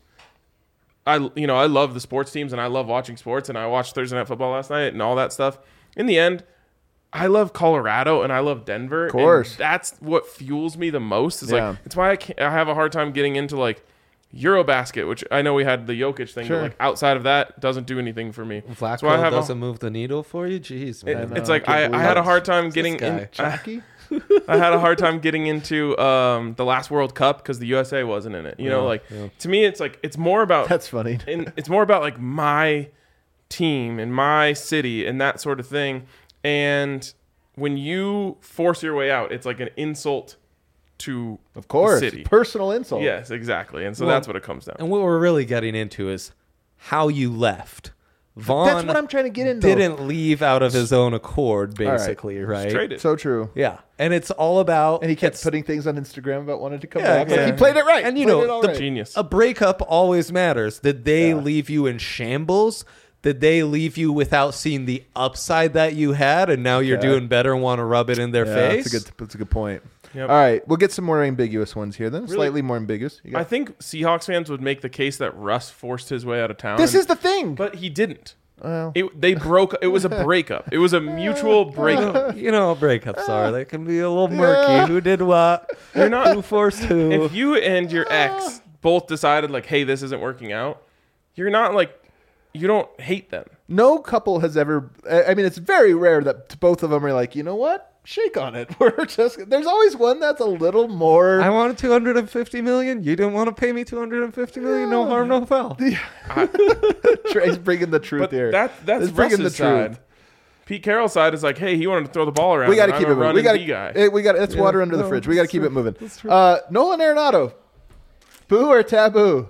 the sports teams and I love watching sports and I watched Thursday Night Football last night and all that stuff. In the end, I love Colorado and I love Denver. Of course. And that's what fuels me the most. Is Yeah. like it's why I have a hard time getting into like Eurobasket, which I know we had the Jokic thing, Sure. but like outside of that, doesn't do anything for me. Flacco So I have doesn't move the needle for you? Jeez, man. it's like I had a hard time getting guy? in. Jockey? I had a hard time getting into the last World Cup because the USA wasn't in it. You know, like to me, it's like it's more about That's funny. it's more about like my team and my city and that sort of thing. And when you force your way out, it's like an insult to Of course. the city. Personal insult. Yes, exactly. And so Well, that's what it comes down. And what we're really getting into is how you left. Vaughn That's what I'm trying to get into. didn't leave out of his own accord, right. basically, right? Traded. So true. Yeah, and it's all about. And he kept it's- putting things on Instagram about wanting to come Yeah, back. Like, yeah. he played it right. And you Played know, it all the right. Genius. A breakup always matters. Did they Yeah. leave you in shambles? Did they leave you without seeing the upside that you had, and now you're Okay. doing better and want to rub it in their Yeah, face? that's a good point. Yep. All right, we'll get some more ambiguous ones here then. Really? Slightly more ambiguous. You got- I think Seahawks fans would make the case that Russ forced his way out of town. this is the thing. but he didn't. Well. They broke. It was a breakup. It was a mutual breakup. You know, breakups are. They can be a little murky. Who did what? You're not. Who forced who? If you and your ex both decided like, hey, this isn't working out, you're not like, you don't hate them. No couple has ever. I mean, it's very rare that both of them are like, you know what? Shake on it. We're just. There's always one that's a little more. I wanted 250 million. You didn't want to pay me 250 million. No harm, no foul. Trey's bringing the truth But here. that's He's bringing Russ's side. Pete Carroll's side is like, hey, he wanted to throw the ball around. We got to and keep I'm it a moving. run We and got D guy. to. We got. It's water under the No, fridge. We got to that's keep true. it moving. That's true. Nolan Arenado. Boo or taboo?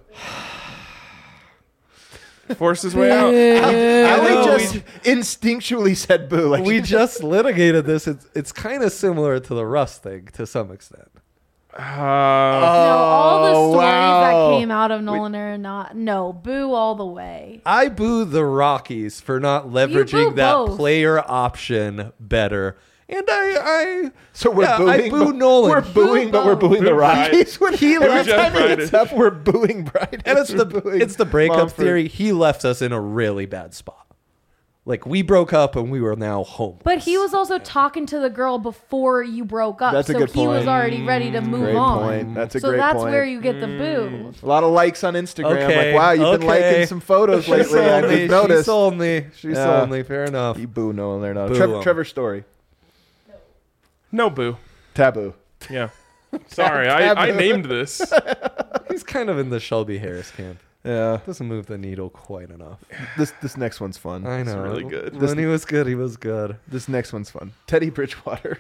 Forced his way out. Ali know, just instinctually said boo. Like We just litigated this. It's kind of similar to the Russ thing to some extent. No, all the stories wow. that came out of Nolan Arenado, no, boo all the way. I boo the Rockies for not leveraging boo that both. player option better. And I So we're yeah, booing. I boo but- Nolan. We're booing, but we're booing the Boo Bryant. Rockies. When He every left time Bryant. it gets up, we're booing Bryant. And it's We're booing the breakup Mumford. theory. He left us in a really bad spot. Like, we broke up and we were now homeless. But he was also talking to the girl before you broke up. That's a so good he was point. already ready to move Great on. point. That's a So great that's point. where you get the boo. A lot of likes on Instagram. Okay, Like, wow, you've been okay. liking some photos She lately. I sold me. just noticed. She sold me. She Yeah. sold me. Fair enough. You boo Nolan there now. Boo Trevor, 'em. Trevor's story. No boo. Taboo. Yeah. Sorry, I named this. He's kind of in the Shelby Harris camp. Yeah. Doesn't move the needle quite enough. This next one's fun. I know. really good. When he was good, he was good. This next one's fun. Teddy Bridgewater.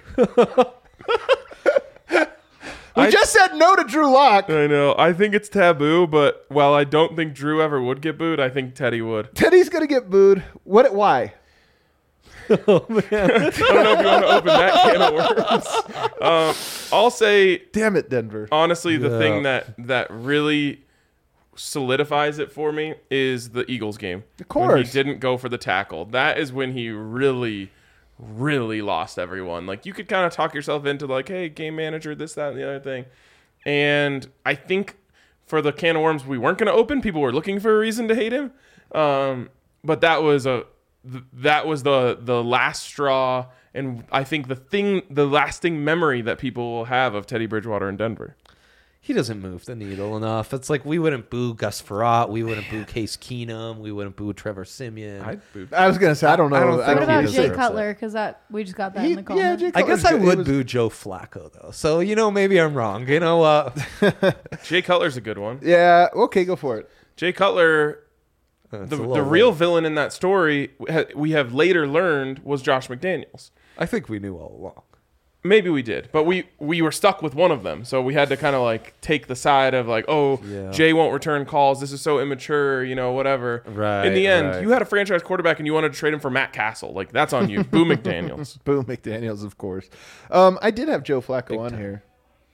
We just said no to Drew Lock. I know. I think it's taboo, but while I don't think Drew ever would get booed, I think Teddy would. Teddy's gonna get booed. Why? Oh, man. I don't know if you want to open that can of worms. I'll say, Damn it, Denver. honestly, the Yeah. thing that really solidifies it for me is the Eagles game. Of When course. he didn't go for the tackle. That is when he really, really lost everyone. Like, you could kind of talk yourself into, like, hey, game manager, this, that, and the other thing. And I think for the can of worms we weren't going to open, people were looking for a reason to hate him. But that was the last straw, and I think the lasting memory that people will have of Teddy Bridgewater in Denver. He doesn't move the needle enough. It's like we wouldn't boo Gus Frerotte. We wouldn't boo Case Keenum. We wouldn't boo Trevor Siemian. I'd boo. I was gonna say I don't know. I don't What think about he Jay deserves Cutler? Because we just got that He- in the yeah, comments. Jay I guess Cutler's I good. He would was- boo Joe Flacco, though. So, maybe I'm wrong. You know what? Jay Cutler's a good one. Yeah. Okay, go for it. Jay Cutler, It's the a little real late. villain in that story, we have later learned was Josh McDaniels. I think we knew all along. Maybe we did, but we were stuck with one of them, so we had to kind of like take the side of like, oh, Yeah. Jay won't return calls. This is so immature, whatever. Right, In the end, right. you had a franchise quarterback and you wanted to trade him for Matt Castle. Like, that's on you. Boo McDaniels. Boo McDaniels, of course. I did have Joe Flacco on here.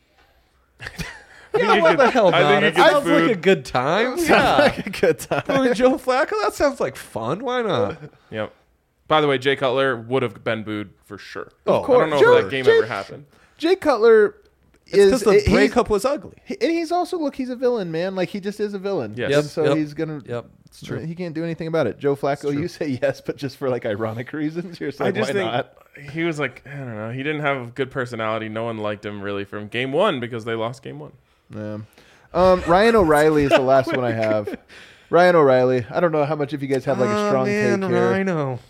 Yeah, what the hell, I not? think It he gets sounds like booed. a good time. Yeah. A good time. Booing Joe Flacco? That sounds like fun. Why not? Yep. By the way, Jay Cutler would have been booed for sure. Oh, I course. don't know Joe- if that game Jay- ever happened. Jay Cutler It's is because the breakup was ugly. and he's also he's a villain, man. Like he just is a villain. Yes. And Yep, so yep, he's gonna. Yep, it's true. He can't do anything about it. Joe Flacco, you say yes, but just for like ironic reasons. You're I saying just why think not? he was like, I don't know. He didn't have a good personality. No one liked him really from game one because they lost game one. Yeah. Ryan O'Reilly is the last one I have. Ryan O'Reilly. I don't know how much of you guys have like a strong take here. I know.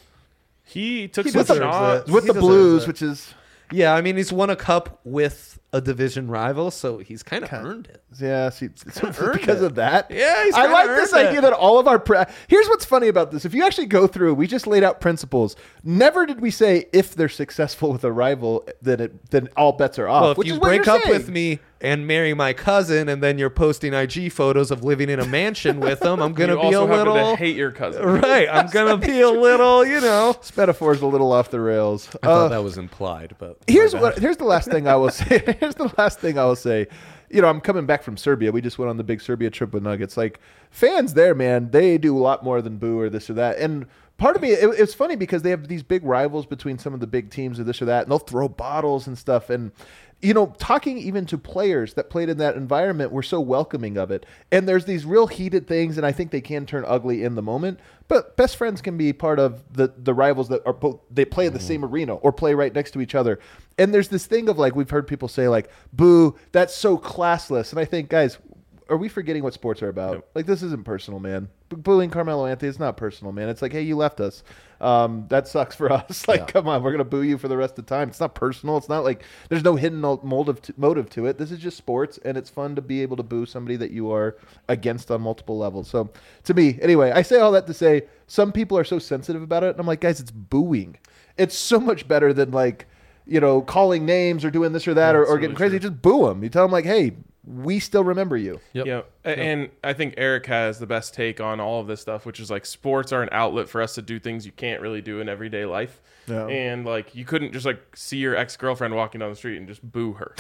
He took He some deserves shots. it. With He the deserves Blues, it. which is Yeah, I mean, he's won a cup with a division rival, so he's kind of earned it. yeah, see, earned because it. of that. Yeah, he's I kinda like this earned idea it. that all of our here's what's funny about this. If you actually go through, we just laid out principles. Never did we say if they're successful with a rival, then all bets are off. Well, if which you is what break you're up saying. with me and marry my cousin, and then you're posting IG photos of living in a mansion with them, I'm gonna You be a also happen little to hate your cousin. right. I'm gonna be a little, This metaphor's a little off the rails. I thought that was implied, but Here's the last thing I will say. Here's the last thing I will say. I'm coming back from Serbia. We just went on the big Serbia trip with Nuggets. Like fans there, man, they do a lot more than boo or this or that. And part of me, it's funny because they have these big rivals between some of the big teams or this or that, and they'll throw bottles and stuff. And talking even to players that played in that environment were so welcoming of it. And there's these real heated things, and I think they can turn ugly in the moment. But best friends can be part of the rivals that are both, they play in the same arena or play right next to each other. And there's this thing of like, we've heard people say like, boo, that's so classless. And I think, guys, are we forgetting what sports are about? Nope. Like, this isn't personal, man. Booing Carmelo Anthony is not personal, man. It's like, hey, you left us. That sucks for us. Like, come on, we're going to boo you for the rest of the time. It's not personal. It's not like there's no hidden motive to it. This is just sports, and it's fun to be able to boo somebody that you are against on multiple levels. So, to me, anyway, I say all that to say some people are so sensitive about it, and I'm like, guys, it's booing. It's so much better than like, calling names or doing this or that or That's getting really crazy. true. Just boo them. You tell them like, hey, we still remember you. Yep. Yeah, and I think Eric has the best take on all of this stuff, which is like sports are an outlet for us to do things you can't really do in everyday life. Yeah. And like you couldn't just like see your ex-girlfriend walking down the street and just boo her.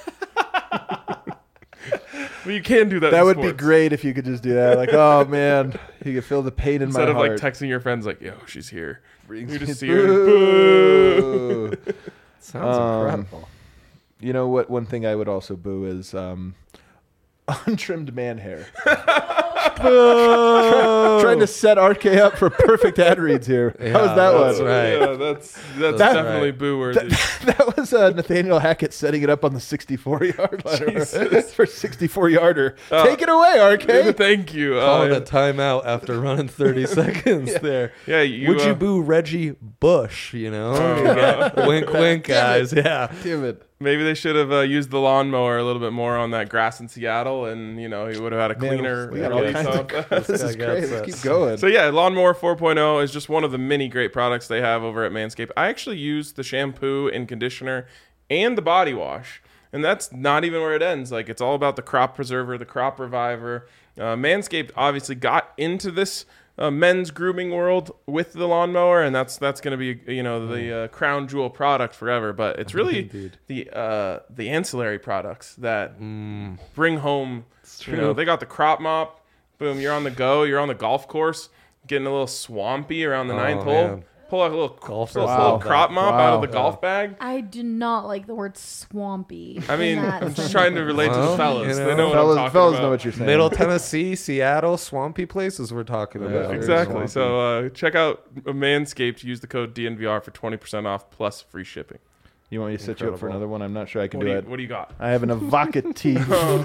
Well, you can do that. That in would be sports. great if you could just do that. Like, oh man, you could feel the pain in Instead my of heart. like texting your friends like, "Yo, she's here." Brings You me just see her. Boo. boo. sounds incredible. You know what? One thing I would also boo is untrimmed man hair. Boo! Trying to set RK up for perfect ad reads here. Yeah, How was that that's one? right. Yeah, that's That's definitely right. boo worthy. That was Nathaniel Hackett setting it up on the 64-yard line for 64-yarder. Take it away, RK. Thank you. Calling a timeout after running 30 seconds there. Yeah, you, Would you boo Reggie Bush? You know, wink, wink, guys. Yeah. Damn it. maybe they should have used the lawnmower a little bit more on that grass in Seattle, and he would have had a cleaner. We got all release kinds of- of This is guy great. gets Let's it. keep going. So yeah, Lawnmower 4.0 is just one of the many great products they have over at Manscaped. I actually use the shampoo and conditioner and the body wash, and that's not even where it ends. Like, it's all about the crop preserver, the crop reviver. Manscaped obviously got into this men's grooming world with the lawnmower, and that's going to be the crown jewel product forever. But it's really the ancillary products that bring home. They got the crop mop. Boom, you're on the go. You're on the golf course, getting a little swampy around the ninth hole. man. Pull out a little Golfers little love crop that. mop out of the golf bag. I do not like the word swampy. I mean, in that I'm just sentence. trying to relate to the Well, fellas. you They know. know what Fellas, I'm talking fellas about. know what you're saying. Middle Tennessee, Seattle, swampy places we're talking about. very Exactly. swampy. So check out Manscaped. Use the code DNVR for 20% off plus free shipping. You want me to set you up for Incredible. another one? I'm not sure I can What do do, it. what do you got? I have an evocative,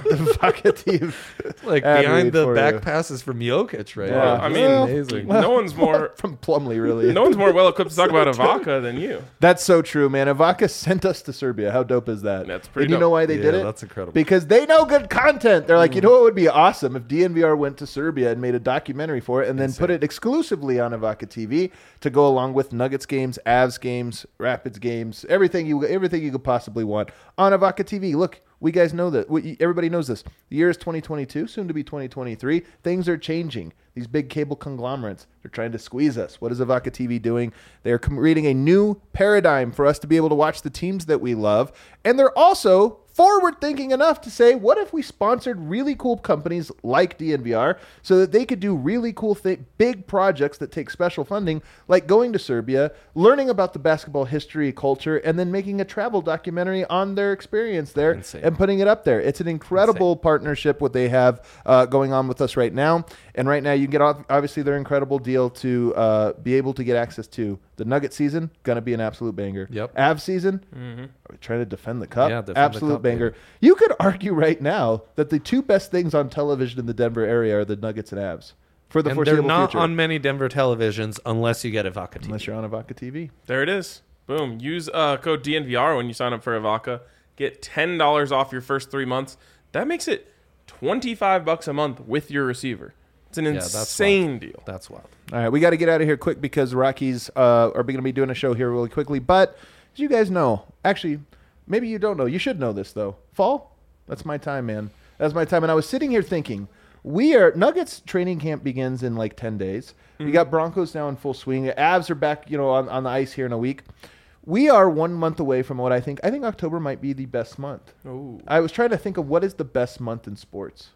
evocative Like ad behind read the for back you. passes from Jokic right Yeah. now. I mean, Amazing. no one's more from Plumlee, really. no one's more well equipped to talk about Ivanka than you. That's so true, man. Ivanka sent us to Serbia. How dope is that? That's pretty And you dope. know why they did Yeah, it? that's incredible. Because they know good content. They're like, you know what would be awesome if DNVR went to Serbia and made a documentary for it and then put it exclusively on Ivanka TV to go along with Nuggets games, Avs games, Rapids games, everything you could possibly want on Ivanka TV. Look, we guys know that. Everybody knows this. The year is 2022, soon to be 2023. Things are changing. These big cable conglomerates, they're trying to squeeze us. What is Ivanka TV doing? They're creating a new paradigm for us to be able to watch the teams that we love. And they're also forward thinking enough to say, what if we sponsored really cool companies like DNVR so that they could do really cool big projects that take special funding, like going to Serbia, learning about the basketball history, culture, and then making a travel documentary on their experience there Insane. and putting it up there. It's an incredible partnership what they have going on with us right now. And right now you can get obviously their incredible deal to be able to get access to the Nugget season, going to be an absolute banger. Yep. Av season, are we trying to defend the cup? Yeah, defend the absolute cup, banger. baby. You could argue right now that the two best things on television in the Denver area are the Nuggets and Avs for the And they're foreseeable not future. on many Denver televisions unless you get Ivanka TV. Unless you're on Ivanka TV. There it is. Boom. Use code DNVR when you sign up for Ivanka. Get $10 off your first 3 months. That makes it $25 a month with your receiver. It's an that's insane deal. That's wild. All right, we got to get out of here quick because Rockies are going to be doing a show here really quickly. But as you guys know, actually, maybe you don't know. You should know this, though. Fall? That's my time, man. That's my time. And I was sitting here thinking, Nuggets training camp begins in like 10 days. We got Broncos now in full swing. Avs are back, on the ice here in a week. We are 1 month away from what I think October might be the best month. Ooh. I was trying to think of what is the best month in sports.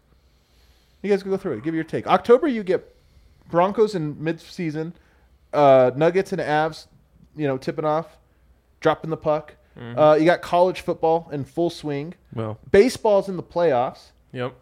You guys can go through it. Give your take. October, you get Broncos in mid-season, Nuggets and Avs, tipping off, dropping the puck. You got college football in full swing. Well, Baseball's in the playoffs. Yep.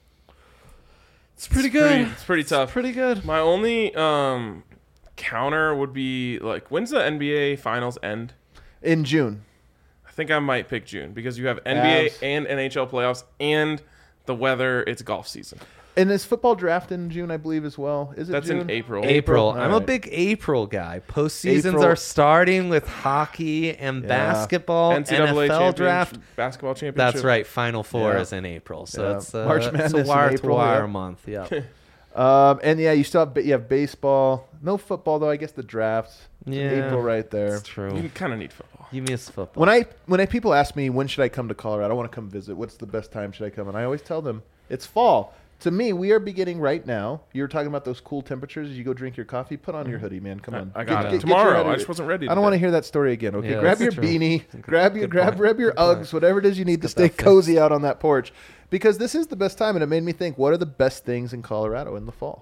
it's pretty good. It's pretty tough. Pretty good. My only counter would be, like, when's the NBA Finals end? In June. I think I might pick June because you have NBA Avs. and NHL playoffs and the weather. It's golf season. And is football draft in June, I believe, as well? Is it That's June? in April. April. All I'm a right. big April guy. Postseasons April. are starting with hockey and Yeah. NCAA basketball, NFL championship, draft. basketball championship. That's right. Final Four Yeah. is in April, so Yeah. it's March Madness it's in a wire April, to wire yeah. month. Yeah. And yeah, you have baseball. No football though. I guess the draft. Yeah. April right there. It's true. You kind of need football. You miss football. When people ask me when should I come to Colorado, I want to come visit. What's the best time should I come? And I always tell them it's fall. To me, we are beginning right now. You were talking about those cool temperatures as you go drink your coffee. Put on your hoodie, man. Come on. I got it. your Tomorrow. head I in just it. wasn't ready. I don't want to hear that story again. Okay, Yeah, grab your that's true. beanie, Good grab your point. Good Uggs, point. whatever it is you need to get stay that fixed. cozy out on that porch, because this is the best time. And it made me think: what are the best things in Colorado in the fall?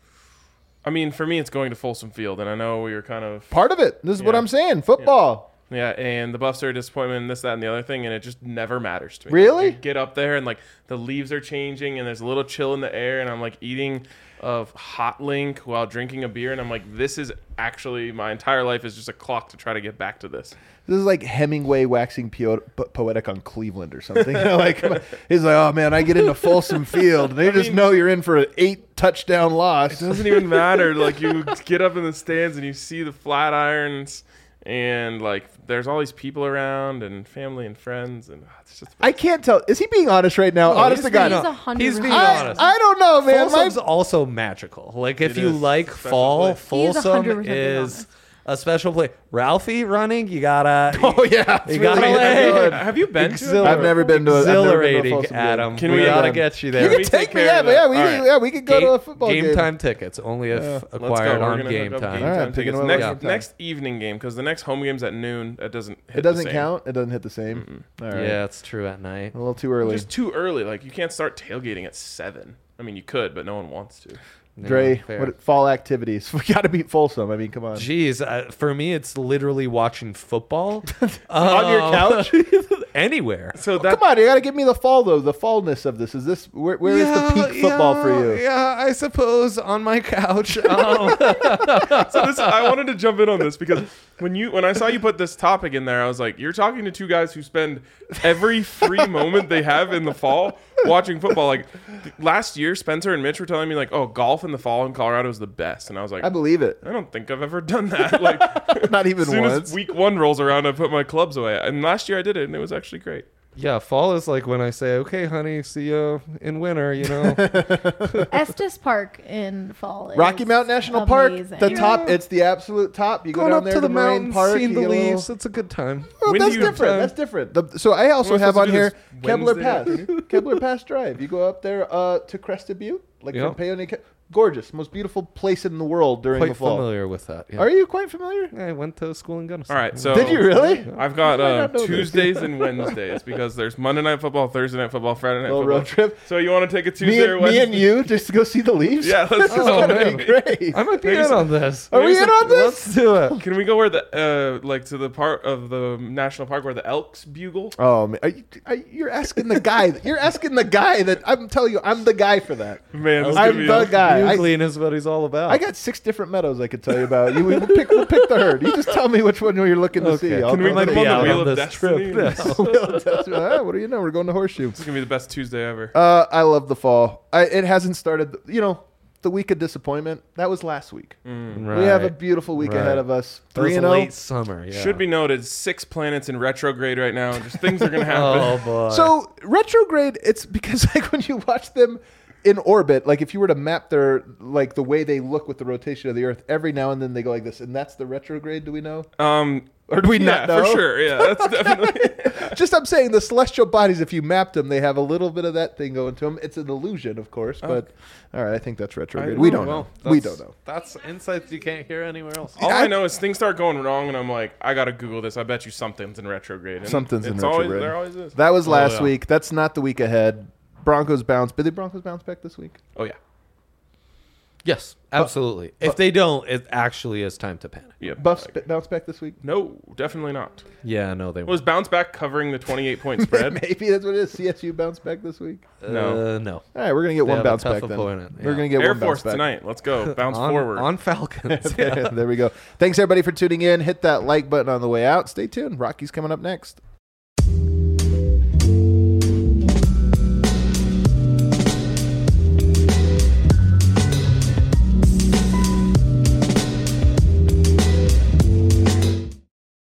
I mean, for me, it's going to Folsom Field, and I know we were kind of Part of it. This is what Yeah. I'm saying. Football. Yeah, and the Buffs are a disappointment, and this, that, and the other thing, and it just never matters to me. Really? Like, you get up there, and like the leaves are changing, and there's a little chill in the air, and I'm like eating a hot link while drinking a beer, and I'm like, this is actually my entire life is just a clock to try to get back to this. This is like Hemingway waxing poetic on Cleveland or something. You know, like he's like, oh man, I get into Folsom Field, and they just know you're in for an 8 touchdown loss. It doesn't even matter. Like you get up in the stands and you see the Flatirons, and like there's all these people around and family and friends, and it's just. I can't tell. Is he being honest right now? Honest to God. He's 100%. He's being honest. I don't know, man. Folsom's also magical. Like if It you is like a special fall, place. He is Folsom 100% being is honest. a special place. Ralphie running, you gotta. Oh yeah, You gotta really lay- good. Have you been to it? Exhilarating. I've never been to a I've never been to a Exhilarating, Folsom game. Adam. Can we we, gotta um, get you You there. can we take take me, care yeah, of but that? we All can, right. yeah, we could go to a football game. Game time tickets only if Let's go. acquired We're on gonna game hook up time. Game All right, time picking tickets. one Next, up. next evening game, because the next home game's at noon. That doesn't hit It doesn't the same. count. It doesn't hit the same. All right. Yeah, it's true at night. A little too early. Just too early. Like you can't start tailgating at 7. I mean, you could, but no one wants to. Dre, fair. what fall activities? We got to beat Folsom. I mean, come on. Jeez, for me, it's literally watching football On your couch? anywhere. So that Come on, you got to give me the fall though. The fallness of this. Is this where is the peak football for you? Yeah, I suppose on my couch. So this, I wanted to jump in on this because when I saw you put this topic in there, I was like, you're talking to two guys who spend every free moment they have in the fall watching football. Like last year, Spencer and Mitch were telling me like, oh, golf in the fall in Colorado is the best, and I was like, I believe it. I don't think I've ever done that. Like Not even as soon once. as week 1 rolls around, I put my clubs away. And last year I did it, and it was actually great. Yeah, fall is like when I say, "Okay, honey, see you in winter." You know, Estes Park in fall. Rocky is Mountain National Park, amazing. the top. It's the absolute top. You go going down up there to the Marine mountains, Park. seeing you the get a little- leaves. It's a good time. Well, When do that's you- different. That's different. So I also Am I have supposed on to do here this Kebler Wednesday Pass. afternoon? Kebler Pass Drive. You go up there to Crested Butte, like Yep. from Paonia. Gorgeous, most beautiful place in the world during the Quite fall. familiar with that. Yeah. Are you quite familiar? I went to school in Gunnison. All right, so Did you really? I've got I not know this? Tuesdays and Wednesdays because there's Monday Night Football, Thursday Night Football, Friday Night Little Football. road trip. So you want to take a Me, Tuesday or and, Wednesday? me and you just to go see the Leafs. Yeah, let's That's go. gonna man. be great. I might be Maybe in some- on this. Are we in on this? Let's do it. Can we go where the like to the part of the national park where the elks bugle? Oh man, you're asking the guy. You're asking the guy that I'm telling you. I'm the guy for that. Man, this I'm could be the guy. Bugling is what he's all about. I got 6 different meadows I could tell you about. We'll pick the herd. You just tell me which one you're looking to see. Okay. I'll Can we go put to them on out the Wheel on of this Destiny? trip. Ah, what do you know? We're going to Horseshoe. This is gonna be the best Tuesday ever. I love the fall. It hasn't started. The week of disappointment. That was last week. Right. We have a beautiful week Right. ahead of us. It was 3-0. late summer. Yeah. Should be noted, 6 planets in retrograde right now. Just things are gonna happen. Oh boy. So retrograde. It's because like when you watch them in orbit, like if you were to map their like the way they look with the rotation of the Earth, every now and then they go like this, and that's the retrograde. Do we know? Or do we Yeah, not know? for sure. Yeah, that's definitely. Just I'm saying the celestial bodies, if you mapped them, they have a little bit of that thing going to them. It's an illusion, of course, but all right, I think that's retrograde. We don't know. We don't know. That's insights you can't hear anywhere else. All I know is things start going wrong, and I'm like, I gotta Google this. I bet you something's in retrograde. And Something's in it's retrograde. Always, there always is. That was last yeah. week. That's not the week ahead. Broncos bounce. Did the Broncos bounce back this week? Oh yeah. Yes, absolutely. If they don't, it actually is time to panic. Yeah. Buffs bounce back this week? No, definitely not. Yeah, no, they Was bounce back covering the 28-point spread? Maybe that's what it is. CSU bounce back this week. No. No. All right, we're gonna get They one have a bounce tough back then. opponent, We're yeah. gonna get Air one bounce Force back tonight. Let's go. Bounce on, forward. on Falcons. Yeah. There we go. Thanks everybody for tuning in. Hit that like button on the way out. Stay tuned. Rocky's coming up next.